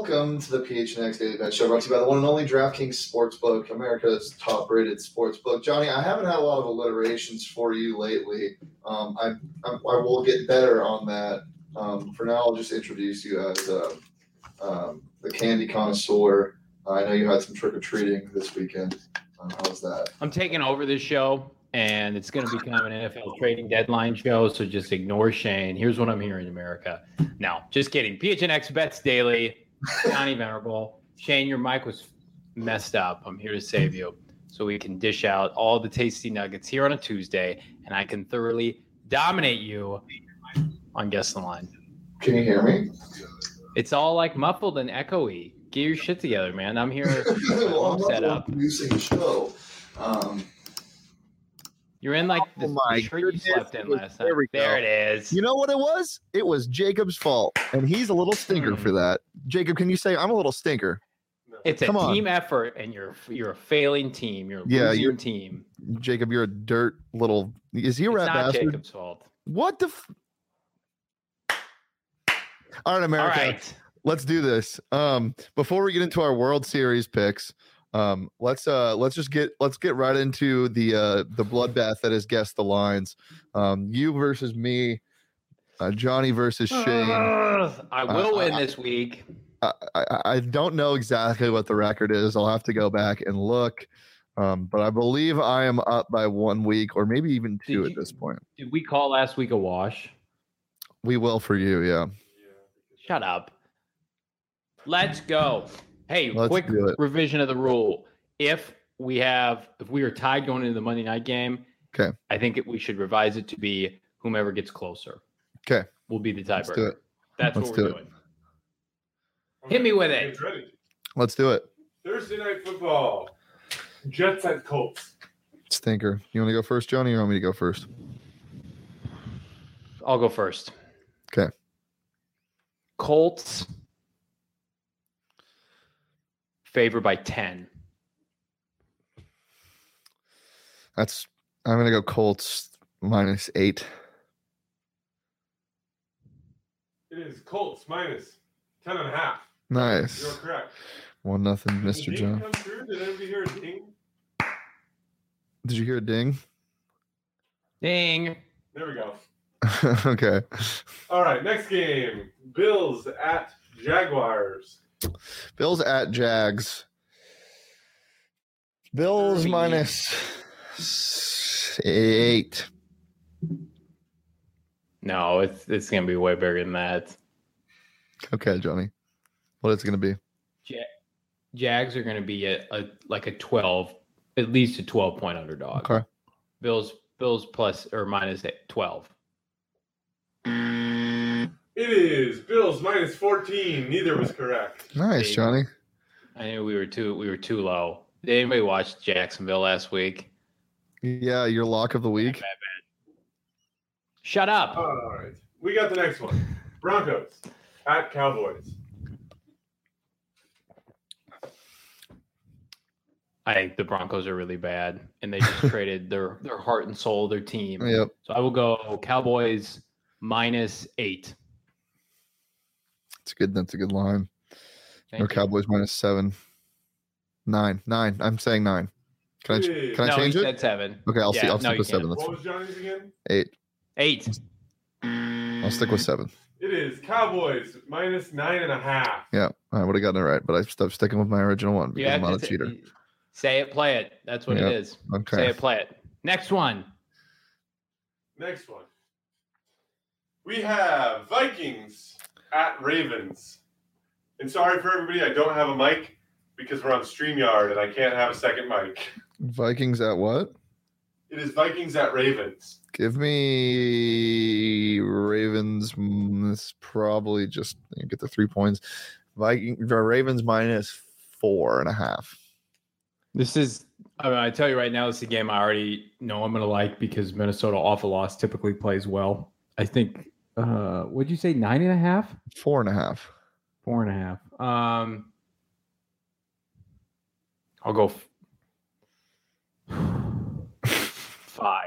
welcome to the PHNX Daily Bet Show, brought to you by the one and only DraftKings Sportsbook, America's top-rated sportsbook. Johnny, I haven't had a lot of alliterations for you lately. I will get better on that. For now, I'll just introduce you as the candy connoisseur. I know you had some trick-or-treating this weekend. How was that? I'm taking over this show, and it's going to become an NFL trading deadline show, so just ignore Shane. Here's what I'm hearing, America. No, just kidding. PHNX Bets Daily, Johnny Venerable. Shane, your mic was messed up. I'm here to save you so we can dish out all the tasty nuggets here on a Tuesday, and I can thoroughly dominate you on Guess the Line. Can you hear me? It's all like muffled and echoey. Get your shit together, man. I'm here. Well, I'm set up. Producing a show. You're in like the shirt you slept in last night. There it is. You know what it was? It was Jacob's fault, and he's a little stinker for that. Jacob, can you say I'm a little stinker? It's a team effort, and you're a failing team. You're a losing team. Jacob, you're a dirt little. Is he a rat bastard? It's not Jacob's fault. What the? All right, America. All right. Let's do this. Before we get into our World Series picks, let's get right into the bloodbath that is Guess the Lines. You versus me, Johnny versus Shane. I will win this week. I don't know exactly what the record is. I'll have to go back and look. But I believe I am up by 1 week or maybe even two at this point. Did we call last week a wash? We will for you, yeah. Shut up. Let's go. Hey, Let's quick revision of the rule. If we are tied going into the Monday night game, okay, I think we should revise it to be whomever gets closer. Okay. Will be the tiebreaker. Let's do it. That's what we're doing. Hit me with it. Let's do it. Thursday night football. Jets at Colts. Stinker. You want to go first, Johnny, or you want me to go first? I'll go first. Okay. Colts favored by 10. I'm going to go Colts -8. It is Colts minus 10.5. Nice. You're correct. 1-0, Mr. John. Come through? Did anybody hear a ding? Did you hear a ding? Ding. There we go. Okay. All right, next game. Bills at Jaguars. Bills at Jags. Bills -8. No, it's going to be way bigger than that. Okay, Johnny. What is it going to be? Jags are going to be at at least a 12-point underdog. Okay. Bills plus or minus 12. It is Bills -14. Neither was correct. Nice, Johnny. I knew we were too low. Did anybody watch Jacksonville last week? Yeah, your lock of the week. Bad. Shut up. All right. We got the next one. Broncos at Cowboys. I think the Broncos are really bad, and they just traded their heart and soul, their team. Yep. So I will go Cowboys -8. That's a good line. Thank you. Cowboys -7. 9. I'm saying 9. Can I change it? Said 7. Okay, I'll stick with 7. That's What was Johnny's again? 8. 8. I'll stick with 7. It is Cowboys -9.5. Yeah, I would have gotten it right, but I stopped sticking with my original one because I'm not a cheater. Say it, play it. That's what it is. Okay. Say it, play it. Next one. We have Vikings at Ravens. And sorry for everybody, I don't have a mic because we're on StreamYard and I can't have a second mic. Vikings at what? It is Vikings at Ravens. Give me Ravens. It's probably just get the 3 points. Ravens -4.5. This is, I tell you right now, this is a game I already know I'm going to like because Minnesota off a loss typically plays well. I think, what'd you say, 9.5? 4.5. 4.5. I'll go 5.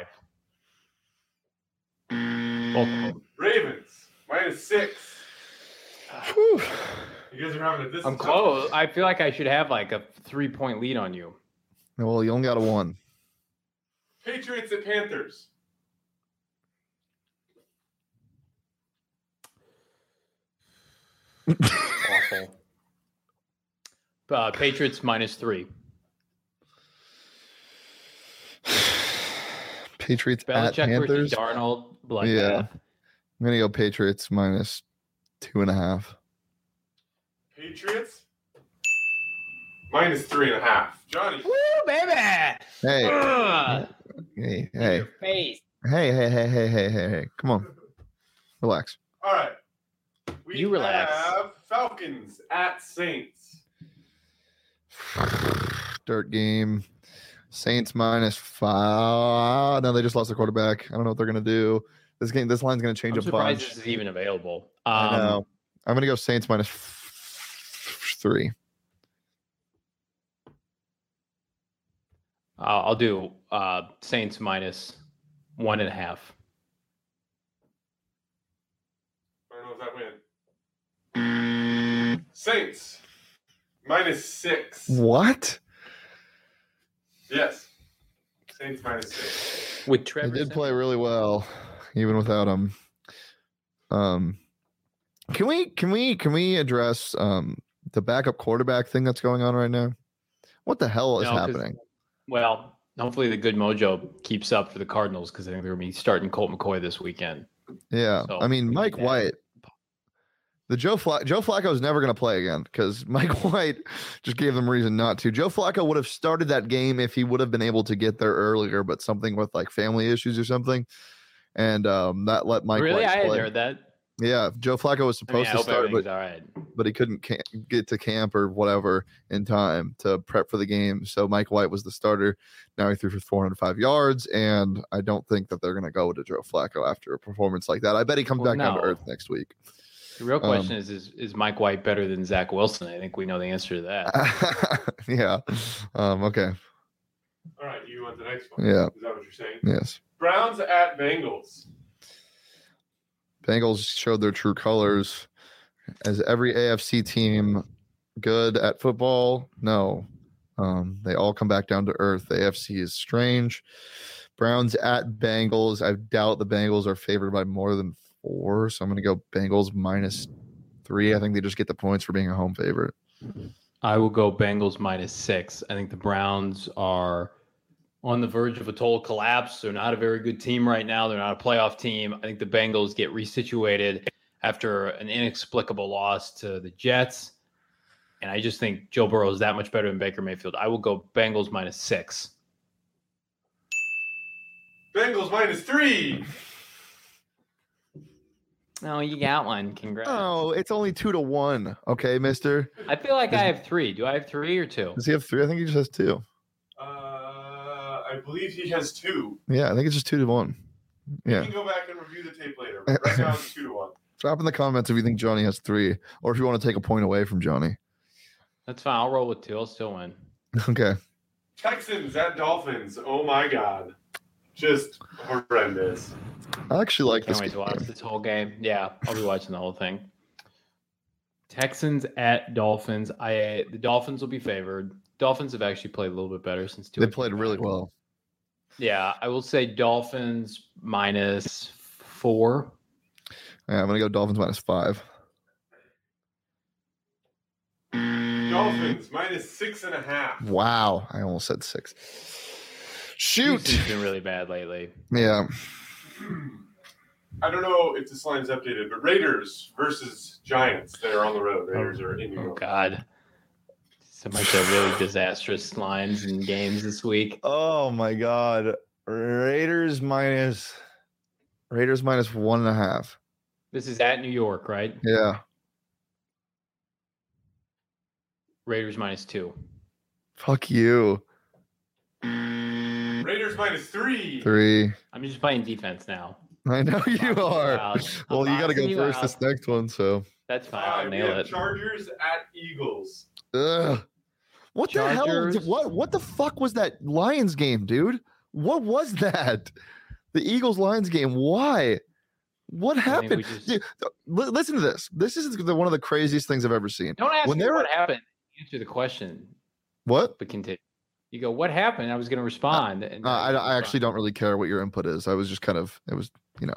Ravens -6. You guys are having a distance. I'm close. I feel like I should have like a 3-point lead on you. Well, you only got a 1. Patriots at Panthers. Awful. Patriots -3. Patriots at Belichick Panthers. versus Darnold. Bloodbath. Yeah. I'm gonna go Patriots -2.5. Patriots -3.5. Johnny. Woo, baby! Hey, Ugh. hey, In hey, your face. hey. Come on. Relax. All right. We You relax. have Falcons at Saints. Dirt game. Saints -5. No, they just lost their quarterback. I don't know what they're gonna do. This line's gonna change I'm a surprised bunch. this is even available. I know. I'm gonna go Saints -3. I'll do Saints -1.5. I don't know if that win. Saints -6. What? Yes. Saints -6. With They Trevor. did play really well, even without him. Can we address the backup quarterback thing that's going on right now? What the hell is No, 'cause- happening? Well, hopefully the good mojo keeps up for the Cardinals because I think they're going to be starting Colt McCoy this weekend. Yeah, So, I mean we Mike need that. White. Joe Flacco is never going to play again because Mike White just gave them reason not to. Joe Flacco would have started that game if he would have been able to get there earlier, but something with like family issues or something, and that let Mike Really, White I hadn't play. heard that. Yeah, Joe Flacco was I mean, supposed I to hope start, everything's but all right. he couldn't get to camp or whatever in time to prep for the game. So Mike White was the starter. Now he threw for 405 yards, and I don't think that they're going to go to Joe Flacco after a performance like that. I bet he comes Well, back down to no. earth next week. The real question is Mike White better than Zach Wilson? I think we know the answer to that. Yeah. Okay. All right, you want the next one? Yeah. Is that what you're saying? Yes. Browns at Bengals. Bengals showed their true colors. As every AFC team good at football? No. They all come back down to earth. The AFC is strange. Browns at Bengals. I doubt the Bengals are favored by more than 4, so I'm going to go Bengals -3. I think they just get the points for being a home favorite. I will go Bengals -6. I think the Browns are on the verge of a total collapse. They're not a very good team right now. They're not a playoff team. I think the Bengals get resituated after an inexplicable loss to the Jets. And I just think Joe Burrow is that much better than Baker Mayfield. I will go Bengals -6. Bengals -3. Oh, you got one. Congrats. Oh, it's only 2-1. Okay, mister. I feel like I have 3. Do I have 3 or 2? Does he have 3? I think he just has 2. I believe he has 2. Yeah, I think it's just 2-1. Yeah. You can go back and review the tape later. But right now it's 2-1. Drop in the comments if you think Johnny has 3, or if you want to take a point away from Johnny. That's fine. I'll roll with 2. I'll still win. Okay. Texans at Dolphins. Oh my God. Just horrendous. I actually like Can't this wait to watch game. this whole game. Yeah, I'll be watching the whole thing. Texans at Dolphins. The Dolphins will be favored. Dolphins have actually played a little bit better since They played really well. Yeah, I will say Dolphins -4. Yeah, I'm gonna go Dolphins -5. Dolphins -6.5. Wow, I almost said 6. Shoot. Houston's been really bad lately. Yeah. I don't know if this line's updated, but Raiders versus Giants. They're on the road. Raiders are in New Oh York. God, some of the really disastrous lines and games this week. Oh my God. Raiders -1.5. This is at New York, right? Yeah. Raiders -2. Fuck you. Raiders -3. 3. I'm just playing defense now. I know you Boxing are. out. Well, I'm you got to go boxing you first out. this next one. So, That's fine. I'll We nail have it. Chargers at Eagles. ugh. What the hell? Chargers. What the fuck was that Lions game, dude? What was that? The Eagles Lions game. Why? What I think happened? we just Dude, listen to this. This is one of the craziest things I've ever seen. don't ask When me they were what happened. Answer the question, what? but continue. You go, what happened? I was going to respond. And I actually don't really care what your input is. I was just kind of, it was,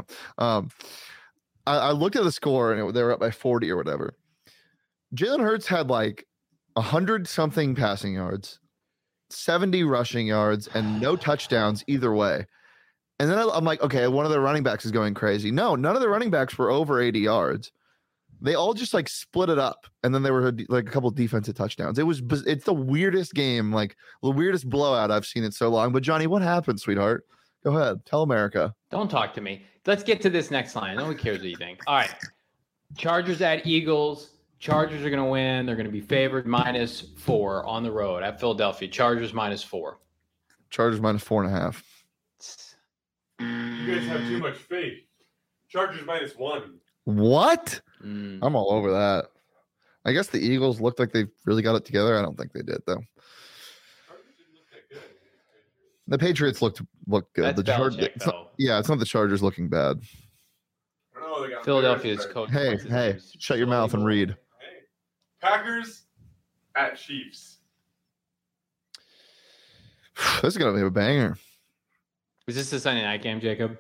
I looked at the score and they were up by 40 or whatever. Jalen Hurts had like 100 something passing yards, 70 rushing yards, and no touchdowns either way. And then I'm like, okay, one of the running backs is going crazy. No, none of the running backs were over 80 yards. They all just like split it up, and then there were like a couple of defensive touchdowns. It's the weirdest game, like the weirdest blowout I've seen in so long. But Johnny, what happened, sweetheart? Go ahead, tell America. Don't talk to me. Let's get to this next line. No one cares what you think. All right, Chargers at Eagles. Chargers are going to win. They're going to be favored -4 on the road at Philadelphia. Chargers -4. Chargers -4.5. You guys have too much faith. Chargers -1. What? Mm. I'm all over that. I guess the Eagles looked like they really got it together. I don't think they did though. Chargers didn't look that good. The Patriots looked good. That's Belichick, though. It's not the Chargers looking bad. I don't know, they got Philadelphia's Bears, coach. Hey, what's his hey, name? shut your mouth and read. Hey. Packers at Chiefs. This is gonna be a banger. Is this the Sunday night game, Jacob?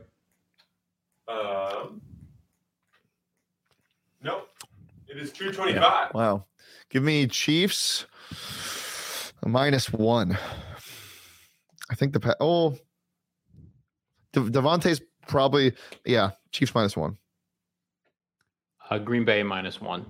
Nope. It is 225. Yeah. Wow. Give me Chiefs -1. I think Devontae's probably, Chiefs -1. Green Bay -1.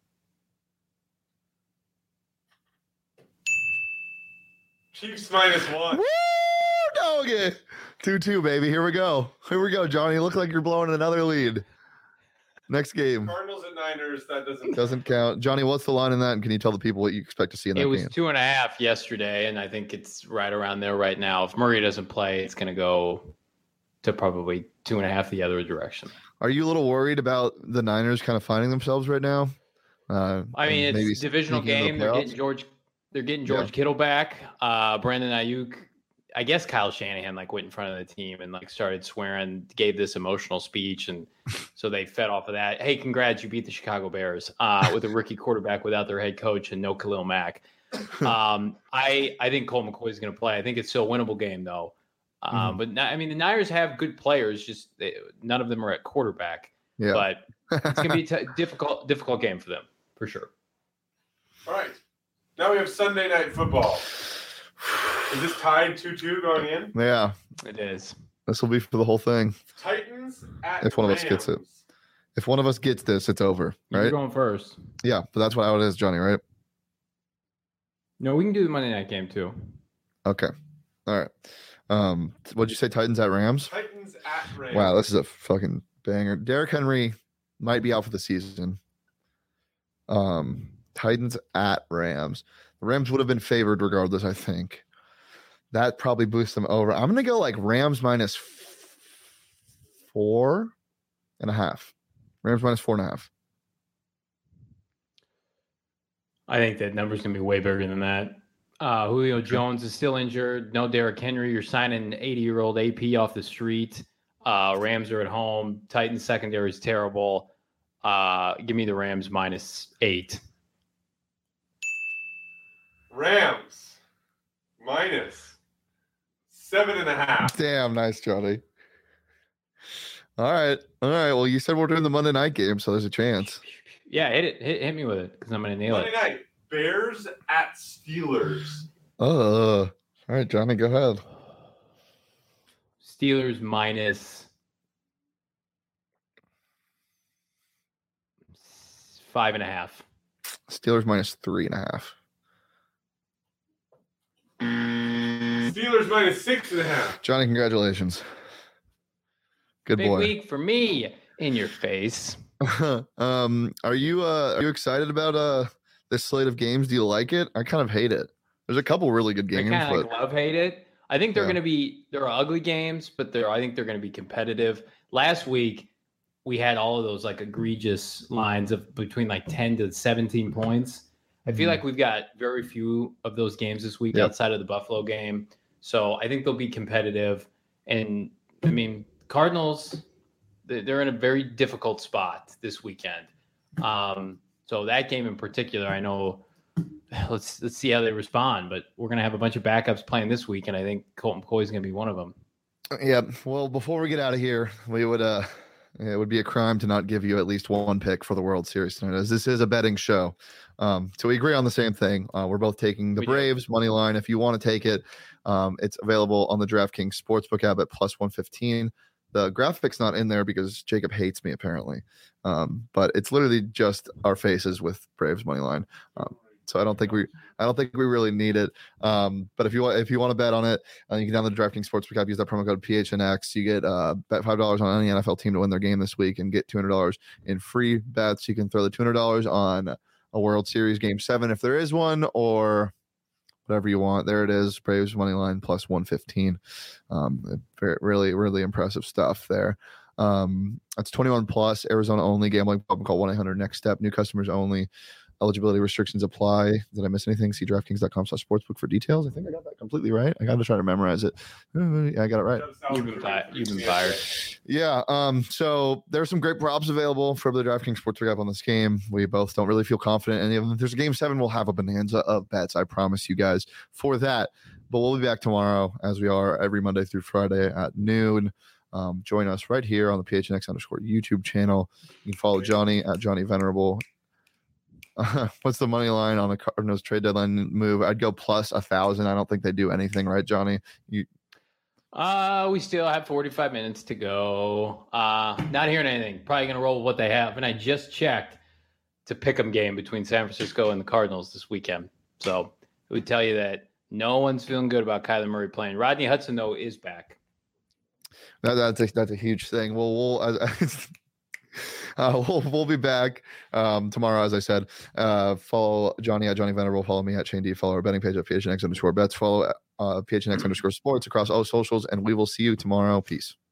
Chiefs -1. Woo, doggy. 2-2, baby. Here we go, Johnny. Look like you're blowing another lead. Next game. Cardinals at Niners. That Doesn't count. Johnny, what's the line in that? And can you tell the people what you expect to see in that It was game? 2.5 yesterday, and I think it's right around there right now. If Murray doesn't play, it's going to go to probably 2.5 the other direction. Are you a little worried about the Niners kind of finding themselves right now? I mean, maybe it's a divisional sneaking into the game. playoffs? They're getting George Kittle back. Brandon Ayuk. I guess Kyle Shanahan went in front of the team and started swearing, gave this emotional speech, and so they fed off of that. Hey, congrats, you beat the Chicago Bears with a rookie quarterback without their head coach and no Khalil Mack. I think Colt McCoy is going to play. I think it's still a winnable game though. But the Niners have good players, just none of them are at quarterback. Yeah. But it's going to be a difficult game for them for sure. All right. Now we have Sunday Night Football. Is this tied 2-2 going in? Yeah. It is. This will be for the whole thing. Titans at If one of us gets it. Rams. If one of us gets this, it's over, You're right? going first. Yeah, but that's how it is, Johnny, right? No, we can do the Monday night game too. Okay. All right. What'd you say, Titans at Rams? Titans at Rams. Wow, this is a fucking banger. Derrick Henry might be out for the season. Titans at Rams. The Rams would have been favored regardless, I think. That probably boosts them over. I'm going to go like Rams -4.5. Rams -4.5. I think that number's going to be way bigger than that. Julio Jones is still injured. No Derrick Henry. You're signing an 80-year-old AP off the street. Rams are at home. Titans secondary is terrible. Give me the Rams -8. Rams -7.5. Damn, nice, Johnny. All right. Well, you said we're doing the Monday night game, so there's a chance. Yeah, hit it. Hit me with it because I'm going to nail Monday it. night. Bears at Steelers. All right, Johnny, go ahead. Steelers -5.5. Steelers -3.5. Steelers -6.5. Johnny, congratulations. Good Big boy. week for me in your face. Are you excited about this slate of games? Do you like it? I kind of hate it. There's a couple really good games, I kind but of love hate it. I think they're Yeah. going to be there are ugly games, but I think they're going to be competitive. Last week we had all of those egregious lines of between 10 to 17 points. I feel like we've got very few of those games this week Yep. outside of the Buffalo game. So I think they'll be competitive. And I mean, Cardinals, they're in a very difficult spot this weekend. So that game in particular, I know. Let's see how they respond. But we're gonna have a bunch of backups playing this week, and I think Colt McCoy is gonna be one of them. Yeah. Well, before we get out of here, we would it would be a crime to not give you at least one pick for the World Series tonight, as this is a betting show. So we agree on the same thing. We're both taking the Braves money line. If you want to take it, it's available on the DraftKings Sportsbook app at plus 115. The graphic's not in there because Jacob hates me apparently, but it's literally just our faces with Braves money line. So I don't think we really need it. But if you want to bet on it, you can download the DraftKings Sportsbook app, use that promo code PHNX. You get bet $5 on any NFL team to win their game this week and get $200 in free bets. You can throw the $200 on a World Series Game 7 if there is one, or whatever you want. There it is, Braves money line plus 115. Really, really impressive stuff there. That's 21 plus, Arizona only, gambling problem, call 1-800-NEXT STEP, new customers only. Eligibility restrictions apply. Did I miss anything? See DraftKings.com/sportsbook for details. I think I got that completely right. I got to try to memorize it. Yeah, I got it right. You've been fired. Yeah. So there's some great props available for the DraftKings Sportsbook app on this game. We both don't really feel confident in any of them. If there's a game 7, we'll have a bonanza of bets. I promise you guys for that. But we'll be back tomorrow, as we are every Monday through Friday at noon. Join us right here on the PHNX _ YouTube channel. You can follow Johnny at Johnny Venerable. What's the money line on the Cardinals trade deadline move? I'd go plus 1,000. I don't think they do anything, right, Johnny? We still have 45 minutes to go. Not hearing anything. Probably going to roll with what they have. And I just checked to pick 'em game between San Francisco and the Cardinals this weekend. So it would tell you that no one's feeling good about Kyler Murray playing. Rodney Hudson, though, is back. That's a huge thing. We'll be back tomorrow, as I said. Follow Johnny at Johnny Venerable. Follow me at Shane D. Follow our betting page at PHNX _ bets. Follow PHNX _ sports across all socials, and we will see you tomorrow. Peace.